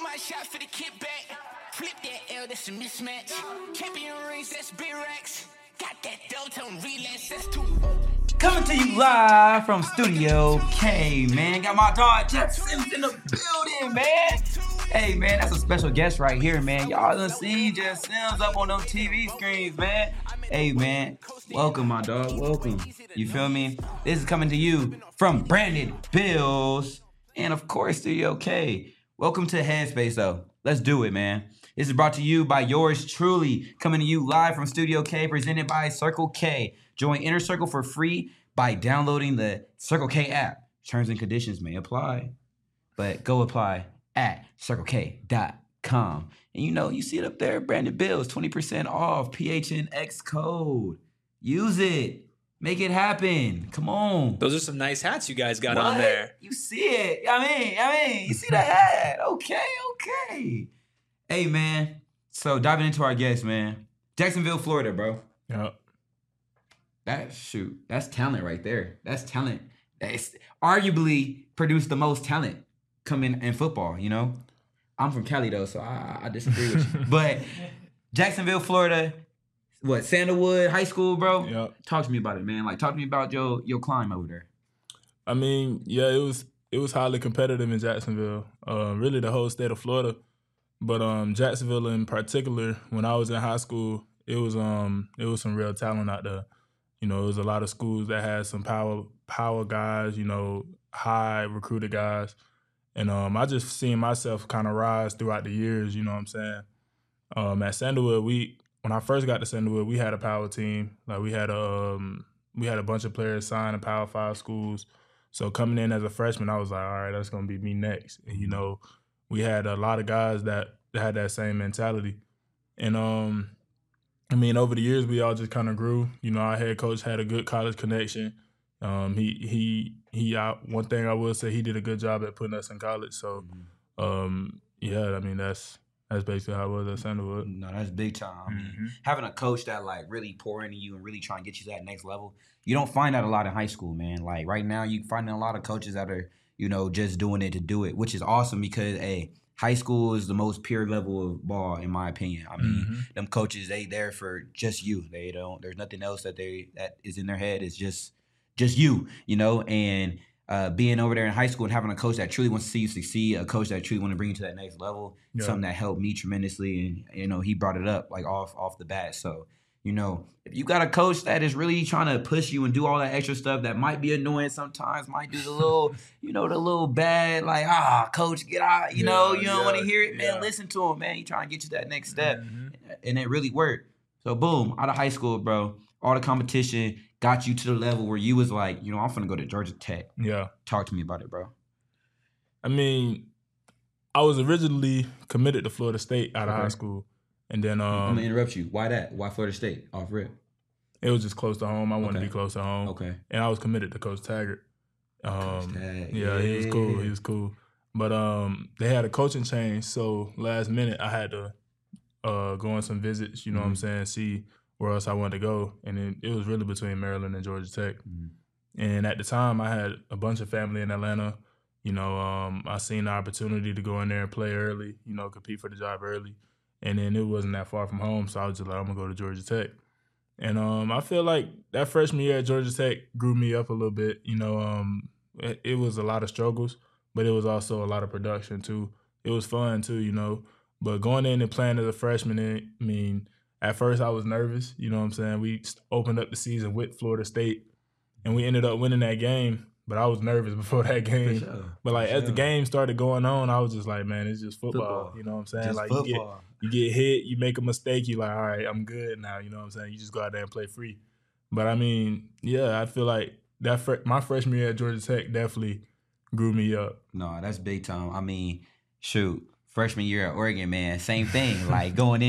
one shot for the kickback. Flip that L, that's a mismatch. Champion rings, that's big racks. Got that Delta on relapse, that's too. Coming to you live from Studio K, man. Got my dog Jeff Sims in the building, man. Hey, man, that's a special guest right here, man. Y'all done seen Jeff Sims up on those TV screens, man. Hey, man, welcome, my dog. Welcome. You feel me? This is coming to you from Branded Bills and, of course, Studio K. Welcome to Headspace, though. Let's do it, man. This is brought to you by yours truly, coming to you live from Studio K, presented by Circle K. Join Inner Circle for free by downloading the Circle K app. Terms and conditions may apply, but go apply at CircleK.com. And you see it up there, Branded Bills, 20% off, PHNX code. Use it. Make it happen. Come on. Those are some nice hats you guys got on there. You see it. I mean, you see the hat. Okay. Hey, man. So diving into our guest, man. Jacksonville, Florida, bro. Yep. That's talent right there. That's talent. That's arguably produced the most talent coming in football, I'm from Cali, though, so I disagree with you. But Jacksonville, Florida, Sandalwood High School, bro? Yep. Talk to me about it, man. Talk to me about your climb over there. I mean, yeah, it was highly competitive in Jacksonville, really the whole state of Florida. But Jacksonville in particular, when I was in high school, it was some real talent out there. It was a lot of schools that had some power guys, high recruited guys. And I just seen myself kind of rise throughout the years, you know what I'm saying? At Sandalwood, when I first got to Sandalwood, we had a power team. We had a bunch of players signed in Power 5 schools. So coming in as a freshman, I was like, all right, that's going to be me next. And, we had a lot of guys that had that same mentality. And, over the years, we all just kind of grew. Our head coach had a good college connection. One thing I will say, he did a good job at putting us in college. So, that's basically how it was at Sandalwood. No, that's big time. I mean, having a coach that really pour into you and really try and get you to that next level, you don't find that a lot in high school, man. Right now, you finding a lot of coaches that are, just doing it to do it, which is awesome because, high school is the most pure level of ball, in my opinion. I mean, them coaches, they there for just you. There's nothing else that is in their head. It's just you, and being over there in high school and having a coach that truly wants to see you succeed, a coach that truly wants to bring you to that next level, something that helped me tremendously. And, he brought it up off the bat. So, if you got a coach that is really trying to push you and do all that extra stuff that might be annoying sometimes, might do the little, the little bad, coach, get out, you don't want to hear it, man, listen to him, man. He trying to get you to that next step. And it really worked. So, boom, out of high school, bro, all the competition got you to the level where you was like, I'm finna go to Georgia Tech. Yeah. Talk to me about it, bro. I mean, I was originally committed to Florida State out of high school. And then I'm gonna interrupt you. Why that? Why Florida State? Off rip. It was just close to home. I wanted to be close to home. Okay. And I was committed to Coach Taggart. Yeah, he was cool. He was cool. But they had a coaching change, so last minute I had to go on some visits, what I'm saying, see where else I wanted to go. And it was really between Maryland and Georgia Tech. And at the time I had a bunch of family in Atlanta. I seen the opportunity to go in there and play early, compete for the job early. And then it wasn't that far from home, so I was just like, I'm going to go to Georgia Tech. And I feel like that freshman year at Georgia Tech grew me up a little bit. It was a lot of struggles, but it was also a lot of production, too. It was fun, too, But going in and playing as a freshman, at first I was nervous, what I'm saying? We opened up the season with Florida State, and we ended up winning that game. But I was nervous before that game. Sure. But as the game started going on, I was just like, man, it's just football. You know what I'm saying? Just you get hit, you make a mistake, you're like, all right, I'm good now. You know what I'm saying? You just go out there and play free. But I feel like my freshman year at Georgia Tech definitely grew me up. No, that's big time. I mean, freshman year at Oregon, man, same thing. Going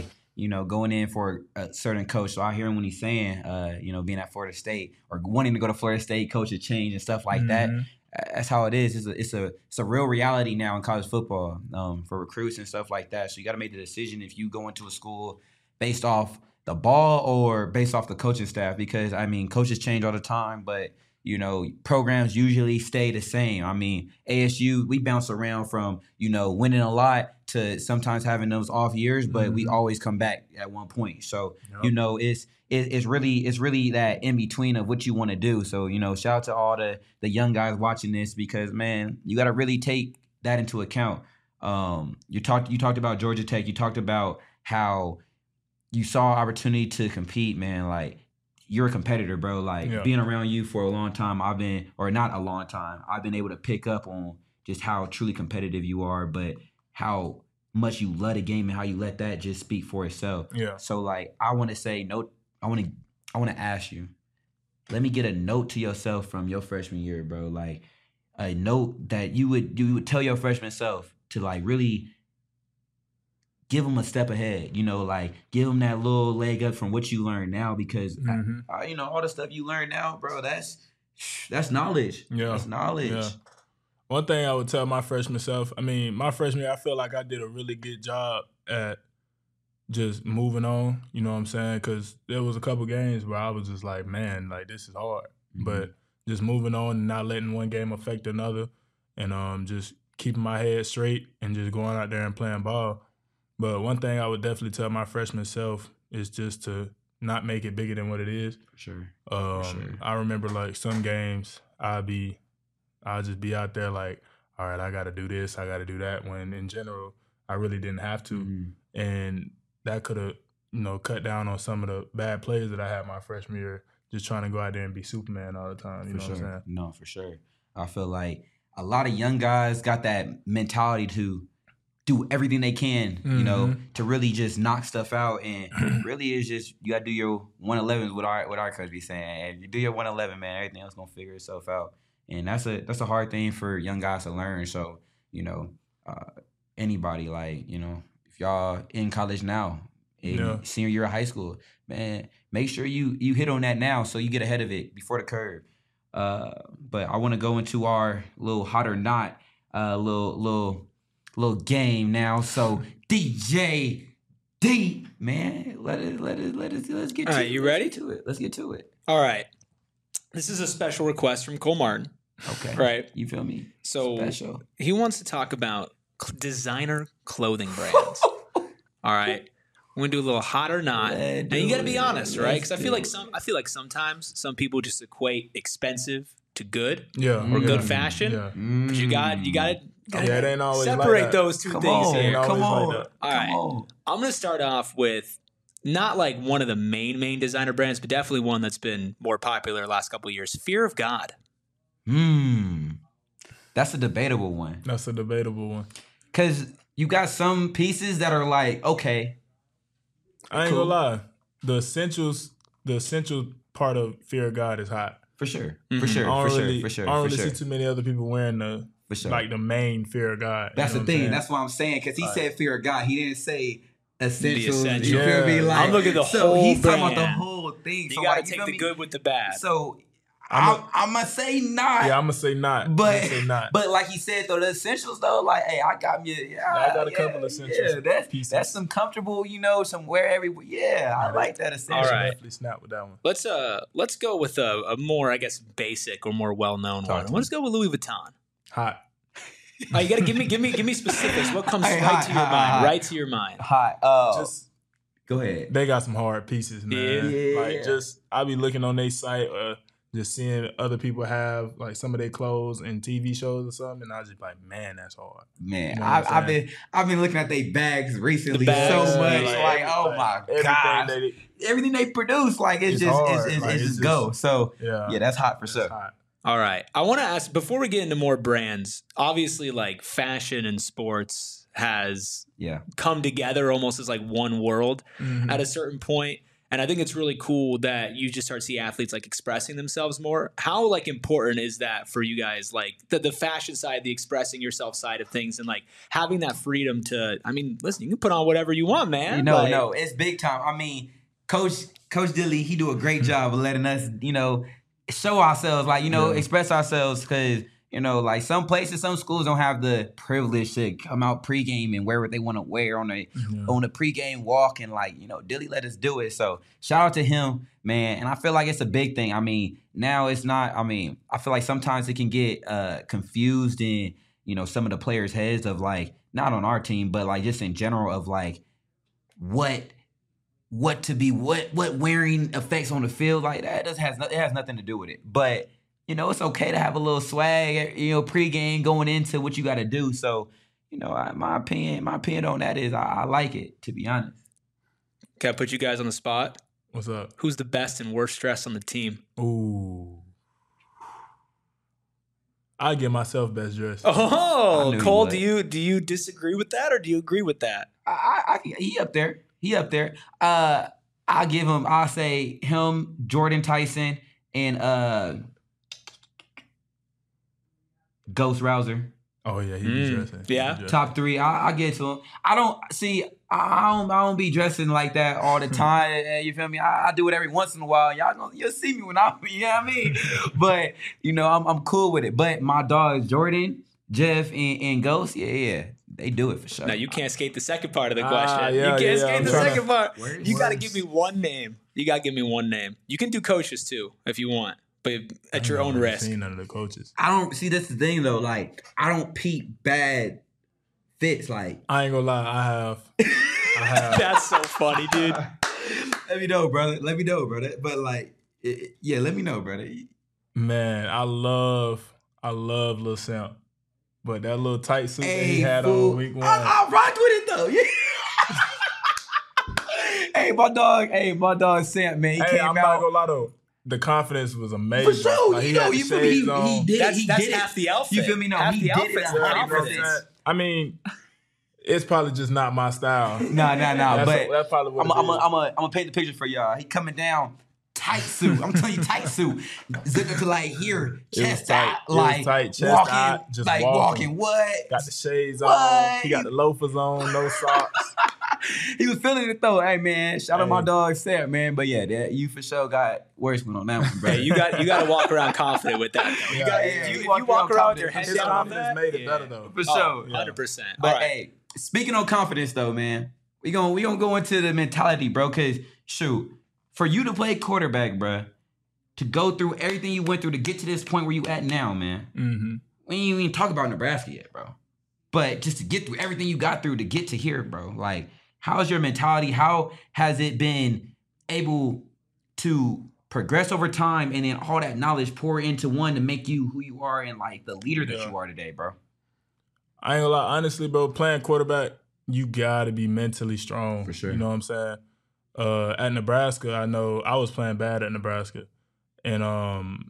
in for a certain coach. So I hear him when he's saying, being at Florida State or wanting to go to Florida State, coach a change and stuff like that. That's how it is. It's a real reality now in college football for recruits and stuff like that. So you got to make the decision if you go into a school based off the ball or based off the coaching staff because, coaches change all the time. But, programs usually stay the same. I mean, ASU, we bounce around from, winning a lot to sometimes having those off years, but we always come back at one point. So, it's really that in between of what you want to do. So, shout out to all the young guys watching this because, man, you got to really take that into account. You talked about Georgia Tech. You talked about how you saw opportunity to compete, man. Like, you're a competitor, bro. Like, being around you for a long time, I've been able to pick up on just how truly competitive you are, but how much you love the game and how you let that just speak for itself. Yeah. So, like, I want to ask you, let me get a note to yourself from your freshman year, bro. Like, a note that you would tell your freshman self to, like, really give them a step ahead, like give them that little leg up from what you learn now because, all the stuff you learn now, bro, that's knowledge. Yeah. That's knowledge. Yeah. One thing I would tell my freshman self, my freshman year, I feel like I did a really good job at just moving on, you know what I'm saying? Because there was a couple games where I was just like, man, like this is hard. Mm-hmm. But just moving on and not letting one game affect another and just keeping my head straight and just going out there and playing ball. But one thing I would definitely tell my freshman self is just to not make it bigger than what it is. For sure. I remember like some games I'll just be out there like, all right, I got to do this, I got to do that. When in general, I really didn't have to, and that could have cut down on some of the bad plays that I had my freshman year. Just trying to go out there and be Superman all the time. You know what I'm saying? No, for sure. I feel like a lot of young guys got that mentality to do everything they can, to really just knock stuff out. And really it's just, you got to do your 111s what our coach be saying. If you do your 111, man, everything else going to figure itself out. And that's a hard thing for young guys to learn. So, anybody like, if y'all in college now, senior year of high school, man, make sure you hit on that now so you get ahead of it before the curve. But I want to go into our little hot or not, little game now. So DJ Deep, man, let's get All to right, it. You ready? Let's get to it. All right. This is a special request from Cole Martin. Okay. Right. You feel me? So special. He wants to talk about designer clothing brands. All right. We're gonna do a little hot or not. And you gotta be honest, right? Because I feel like sometimes some people just equate expensive to good or good fashion. Yeah. But you gotta it ain't always separate like those two things here. Come on. All right. I'm gonna start off with not like one of the main designer brands, but definitely one that's been more popular the last couple of years. Fear of God. That's a debatable one. Because you got some pieces that are like, okay. I ain't gonna lie. The essential part of Fear of God is hot. For sure. For sure. I don't really see too many other people wearing the main Fear of God. That's the thing. That's what I'm saying. Because he said Fear of God. He didn't say essentials. Essentials. You feel me? Like, I'm looking at the whole he's brand. talking about the whole thing. You gotta take the good with the bad. So I'm gonna say not. Yeah, I'm gonna say not. But like he said though, the essentials though, like, hey, I got me. I got a couple of essentials. Yeah, that's some comfortable, some wear everywhere. Yeah, I like that essential. All right, definitely snap with that one. Let's go with a more, I guess, basic or more well known one. Let's go with Louis Vuitton. Hot. Oh, you gotta give me specifics. What comes right to your mind? Right to your mind. Hot. Just go ahead. They got some hard pieces, man. Yeah. Like I be looking on their site. Just seeing other people have like some of their clothes in TV shows or something, and I was just like, man, that's hard. Man, I've been looking at their bags recently so much. Like, oh my god, everything they produce, like it's just go. So yeah, that's hot for sure. Hot. All right, I want to ask before we get into more brands. Obviously, like fashion and sports has come together almost as like one world at a certain point. And I think it's really cool that you just start to see athletes like expressing themselves more. How like important is that for you guys? Like the fashion side, the expressing yourself side of things, and like having that freedom to. I mean, listen, you can put on whatever you want, man. No, it's big time. I mean, Coach Dilly, he do a great job of letting us, show ourselves, like express ourselves because You know, like some places, some schools don't have the privilege to come out pregame and wear what they want to wear on a pregame walk, and like, you know, Dilly let us do it. So shout out to him, man. And I feel like it's a big thing. I mean, now it's not. I mean, I feel like sometimes it can get confused in, you know, some of the players' heads of like, not on our team, but like just in general of like what wearing affects on the field. Like that it has nothing to do with it. But you know, it's okay to have a little swag, you know, pregame going into what you got to do. So, you know, my opinion on that is I like it, to be honest. Can I put you guys on the spot? What's up? Who's the best and worst dressed on the team? Ooh. I give myself best dressed. Oh, Cole, do you disagree with that or do you agree with that? He up there. I'll say him, Jordan Tyson, and Ghost Rouser. Oh yeah, he be dressing. Yeah, top 3. I get to him. I don't be dressing like that all the time. You feel me? I do it every once in a while. You'll see me when you know what I mean. But you know, I'm cool with it. But my dogs, Jordan, Jeff, and Ghost, yeah, they do it for sure. Now you can't skate the second part of the question. You can't skate the second part. You got to give me one name. You can do coaches too if you want. But at your own risk. Seen none of the coaches. I don't see. That's the thing though. Like I don't peep bad fits. Like I ain't gonna lie. I have. That's so funny, dude. Let me know, brother. But like, let me know, brother. Man, I love Lil Simp, but that little tight suit that he had on week 1. I rocked with it though. Yeah. Hey, my dog Simp, man. He came I'm out. not gonna lie though. The confidence was amazing. For sure, like, you feel me? He did it. That's half the outfit. You feel me? No, half he the did outfit's it. confidence. I mean, it's probably just not my style. Nah. But that's probably what I'm gonna paint the picture for y'all. He coming down tight suit. I'm telling you, tight suit. Zipping to like here, chest out, like tight, chest walking, out, just like walking. What? Got the shades on. He got the loafers on, no socks. He was feeling it though. Hey man, shout out my dog Sam, man. But yeah, you for sure got worse one on that one, bro. Hey, you got to walk around confident with that. Though. If you walk around with your head down on that, made it better though. For sure, 100%. But hey, speaking on confidence though, man, we gonna go into the mentality, bro. Cause shoot, for you to play quarterback, bro, to go through everything you went through to get to this point where you at now, man. Mm-hmm. We ain't even talk about Nebraska yet, bro. But just to get through everything you got through to get to here, bro, like. How's your mentality? How has it been able to progress over time and then all that knowledge pour into one to make you who you are and like the leader that you are today, bro? I ain't gonna lie. Honestly, bro, playing quarterback, you gotta be mentally strong. For sure. You know what I'm saying? At Nebraska, I know I was playing bad at Nebraska. And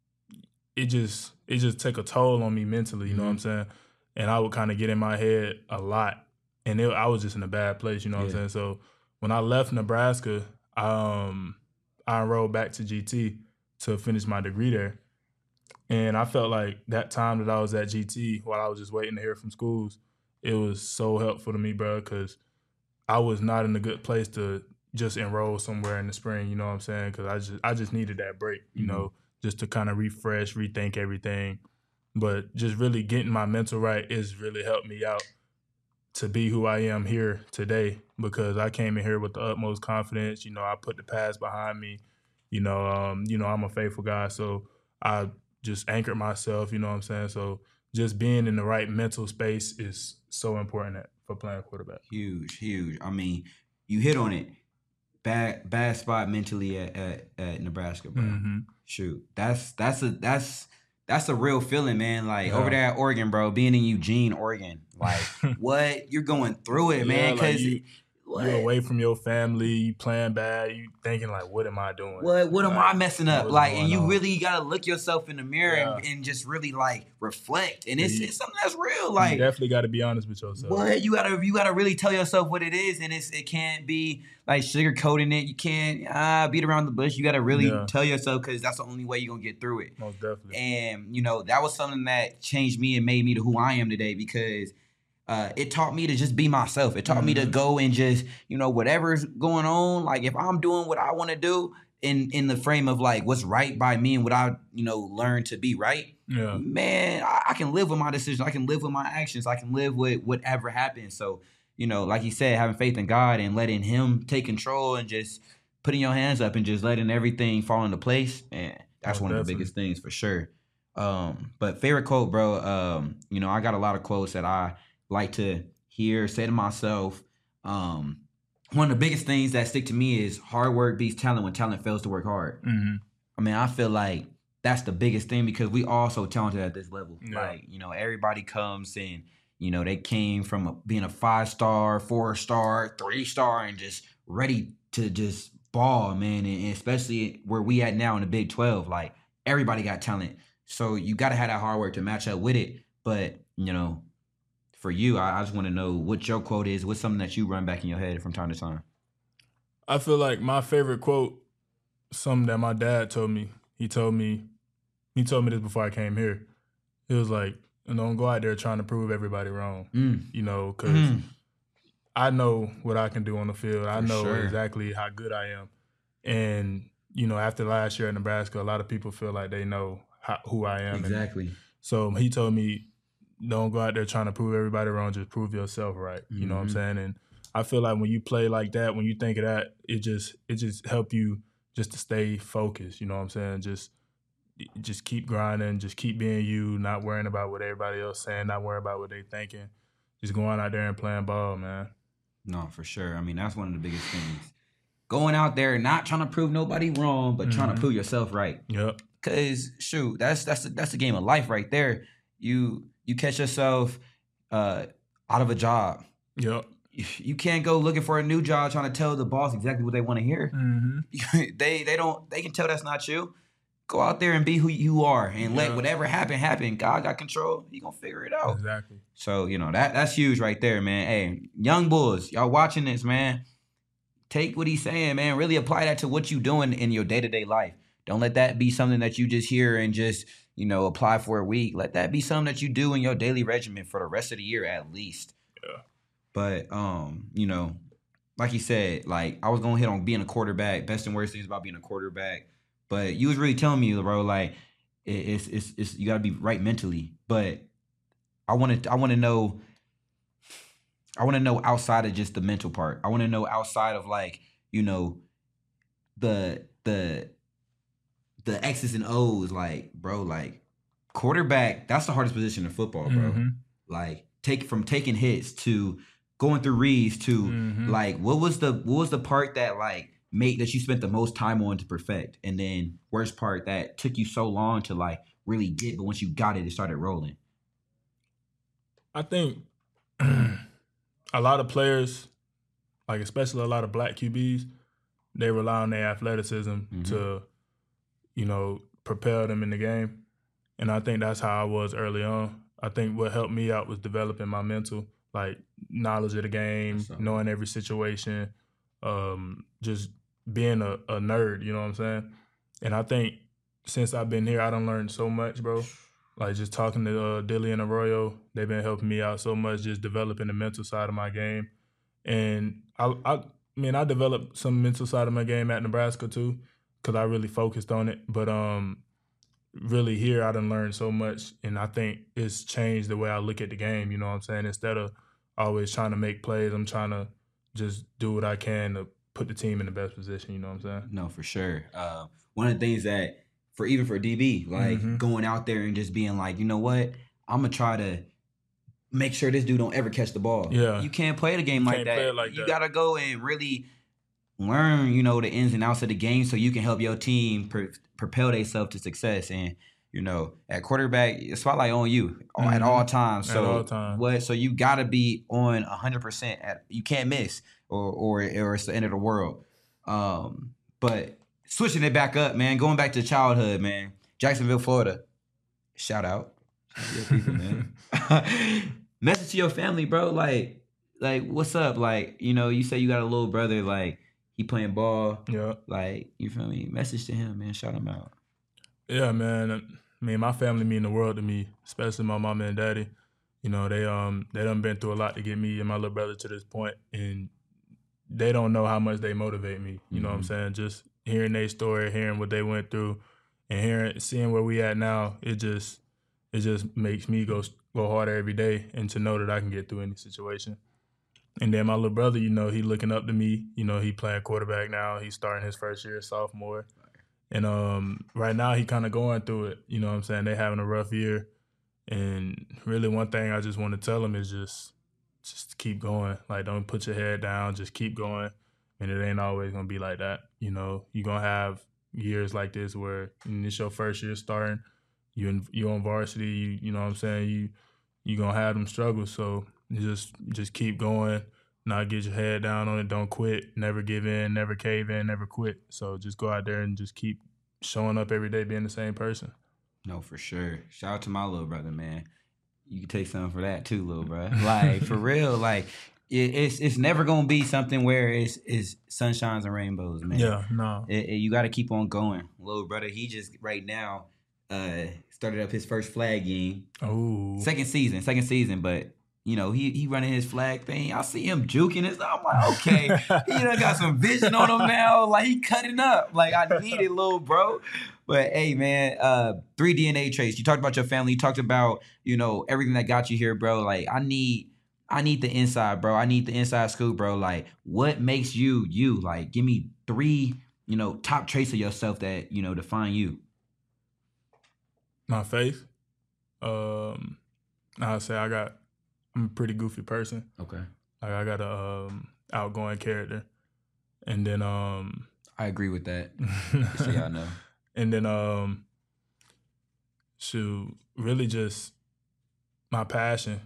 it just took a toll on me mentally, you know what I'm saying? And I would kind of get in my head a lot. And I was just in a bad place, you know what I'm saying? So when I left Nebraska, I enrolled back to GT to finish my degree there. And I felt like that time that I was at GT while I was just waiting to hear from schools, it was so helpful to me, bro, because I was not in a good place to just enroll somewhere in the spring, you know what I'm saying? Because I just needed that break, you know, just to kind of refresh, rethink everything. But just really getting my mental right has really helped me out to be who I am here today, because I came in here with the utmost confidence. You know, I put the past behind me. You know, I'm a faithful guy, so I just anchored myself, you know what I'm saying? So just being in the right mental space is so important for playing quarterback. Huge. I mean, you hit on it. Bad spot mentally at Nebraska, bro. Mm-hmm. Shoot, that's a real feeling, man. Like over there at Oregon, bro, being in Eugene, Oregon, like what you're going through it, man. Because you're away from your family, you playing bad, you thinking like, what am I doing? What am I messing up? Like, and you on? Really gotta look yourself in the mirror and just really like reflect. And it's something that's real. Like, you definitely got to be honest with yourself. What you gotta really tell yourself what it is, and it can't be like sugarcoating it. You can't beat around the bush. You gotta really tell yourself, because that's the only way you're gonna get through it. Most definitely. And you know, that was something that changed me and made me to who I am today, because it taught me to just be myself. It taught me to go and just, you know, whatever's going on, like if I'm doing what I want to do in the frame of like what's right by me and what I, you know, learned to be right, man, I can live with my decisions. I can live with my actions. I can live with whatever happens. So, like you said, having faith in God and letting Him take control and just putting your hands up and just letting everything fall into place, man, that's one of the biggest things for sure. But favorite quote, bro, I got a lot of quotes that I like to hear, say to myself. One of the biggest things that stick to me is hard work beats talent when talent fails to work hard. Mm-hmm. I mean, I feel like that's the biggest thing because we all so talented at this level. Yeah. Like, everybody comes and, they came from being a 5-star, 4-star, 3-star and just ready to just ball, man. And especially where we at now in the Big 12, like everybody got talent. So you got to have that hard work to match up with it. But, for you, I just want to know what your quote is. What's something that you run back in your head from time to time? I feel like my favorite quote, something that my dad told me. He told me this before I came here. It was like, don't go out there trying to prove everybody wrong. Because I know what I can do on the field. I know exactly how good I am. And, after last year at Nebraska, a lot of people feel like they know who I am. Exactly. So he told me, don't go out there trying to prove everybody wrong. Just prove yourself right. You know what I'm saying? And I feel like when you play like that, when you think of that, it just help you just to stay focused. You know what I'm saying? Just keep grinding. Just keep being you. Not worrying about what everybody else saying. Not worrying about what they thinking. Just going out there and playing ball, man. No, for sure. I mean, that's one of the biggest things. Going out there, not trying to prove nobody wrong, but trying to prove yourself right. Yep. Cause shoot, that's the game of life right there. You catch yourself out of a job. Yep. You can't go looking for a new job trying to tell the boss exactly what they want to hear. Mm-hmm. They can tell that's not you. Go out there and be who you are and let whatever happen. God got control. He gonna figure it out. Exactly. So, that's huge right there, man. Hey, young bulls, y'all watching this, man. Take what he's saying, man. Really apply that to what you doing in your day-to-day life. Don't let that be something that you just hear and just, apply for a week. Let that be something that you do in your daily regimen for the rest of the year at least. Yeah. But, like you said, like I was going to hit on being a quarterback, best and worst things about being a quarterback. But you was really telling me, bro, like it's you got to be right mentally. But I want to know outside of just the mental part. I want to know outside of like, the X's and O's, like, bro, like quarterback, that's the hardest position in football, bro. Mm-hmm. Like taking hits to going through reads to like what was the part that like made that you spent the most time on to perfect, and then worst part that took you so long to like really get, but once you got it, it started rolling? I think a lot of players, like especially a lot of black QBs, they rely on their athleticism to, propel them in the game. And I think that's how I was early on. I think what helped me out was developing my mental, like knowledge of the game, knowing every situation, just being a nerd, you know what I'm saying? And I think since I've been here, I done learned so much, bro. Like just talking to Dilly and Arroyo, they've been helping me out so much, just developing the mental side of my game. And I developed some mental side of my game at Nebraska too, because I really focused on it. But really here, I done learned so much, and I think it's changed the way I look at the game, you know what I'm saying? Instead of always trying to make plays, I'm trying to just do what I can to put the team in the best position, you know what I'm saying? No, for sure. One of the things that, for DB, like going out there and just being like, you know what, I'm going to try to make sure this dude don't ever catch the ball. Yeah. You can't play the game like that. You got to go and really learn, the ins and outs of the game so you can help your team propel themselves to success. And, at quarterback, spotlight on you at all times. So at all times. So you got to be on 100%. You can't miss or it's the end of the world. But switching it back up, man, going back to childhood, man, Jacksonville, Florida. Shout out. Your people, man. Message to your family, bro. Like, what's up? Like, you say you got a little brother, like, he playing ball. Yeah. Like, you feel me? Message to him, man. Shout him out. Yeah, man. I mean, my family mean the world to me, especially my mama and daddy. They done been through a lot to get me and my little brother to this point, and they don't know how much they motivate me. You know what I'm saying? Just hearing their story, hearing what they went through, and seeing where we at now, it just it just makes me go harder every day and to know that I can get through any situation. And then my little brother, he looking up to me. He playing quarterback now. He's starting his first year as sophomore. And right now he kind of going through it. You know what I'm saying? They having a rough year. And really one thing I just want to tell him is just keep going. Like, don't put your head down. Just keep going. And it ain't always going to be like that. You're going to have years like this where it's your first year starting. You on varsity. You know what I'm saying? You going to have them struggles. So just keep going, not get your head down on it, don't quit, never give in, never cave in, never quit. So just go out there and just keep showing up every day being the same person. No, for sure. Shout out to my little brother, man. You can take something for that too, little bro. Like, for real, like, it's never going to be something where it's sunshines and rainbows, man. Yeah, no. You got to keep on going. Little brother, he just right now started up his first flag game. Oh. Second season, but he running his flag thing. I see him juking and stuff. I'm like, okay, he done got some vision on him now. Like, he cutting up. Like, I need it, little bro. But hey, man, 3 DNA traits. You talked about your family. You talked about, everything that got you here, bro. Like, I need the inside, bro. I need the inside scoop, bro. Like, what makes you you? Like, give me 3, top traits of yourself that, define you. My faith. I'll say I'm a pretty goofy person. Okay. Like, I got a outgoing character. And then I agree with that. Just so y'all know. And then really just my passion,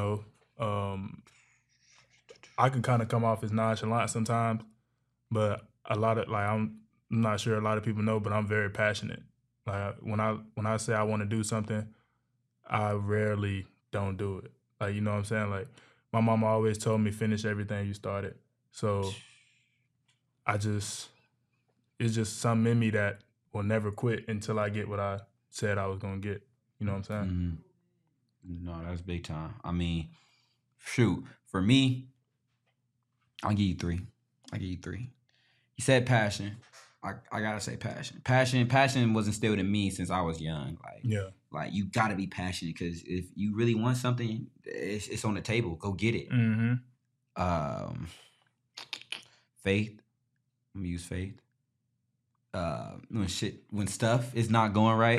I can kind of come off as nonchalant sometimes, but I'm not sure a lot of people know, but I'm very passionate. Like, when I say I want to do something, I rarely don't do it. Like, you know what I'm saying? Like, my mama always told me, finish everything you started. So it's just something in me that will never quit until I get what I said I was going to get. You know what I'm saying? Mm-hmm. No, that's big time. I mean, shoot, for me, I'll give you 3. You said passion. I gotta say passion. Passion was instilled in me since I was young. Like, you gotta be passionate, because if you really want something, it's on the table. Go get it. Mm-hmm. Faith. I'm gonna use faith. When stuff is not going right,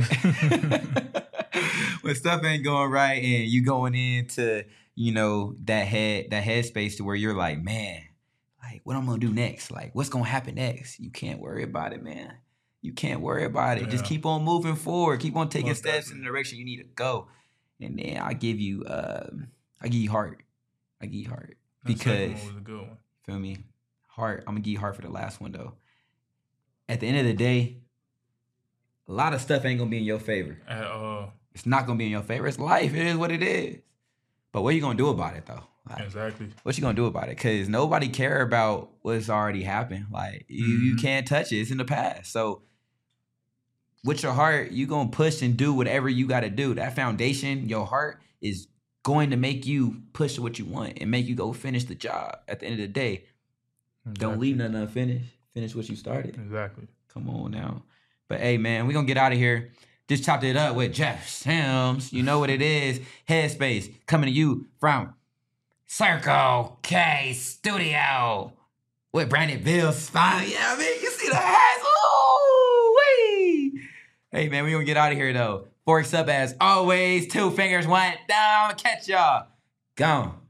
when stuff ain't going right, and you going into that headspace to where you're like, man, like, what I'm gonna do next? Like, what's gonna happen next? You can't worry about it, man. You can't worry about it. Yeah. Just keep on moving forward. Keep on taking steps in the direction you need to go. And then I give you heart. Because was a good one. Feel me? Heart. I'm gonna give you heart for the last one though. At the end of the day, a lot of stuff ain't gonna be in your favor. At all. It's not gonna be in your favor. It's life. It is what it is. But what are you gonna do about it though? Like, exactly. What you gonna do about it? Because nobody care about what's already happened. Like, you can't touch it. It's in the past. So with your heart, you gonna push and do whatever you gotta do. That foundation, your heart, is going to make you push what you want and make you go finish the job. At the end of the day, Don't leave nothing unfinished. Finish what you started. Exactly. Come on now. But hey, man, we're gonna get out of here. Just chopped it up with Jeff Sims. You know what it is. Headspace coming to you from Circle K Studio with Brandon Bill Spine. Yeah, I mean, you see the hats. Ooh-wee. Hey, man, we're going to get out of here, though. Forks up as always. 2 fingers went down. Catch y'all. Gone.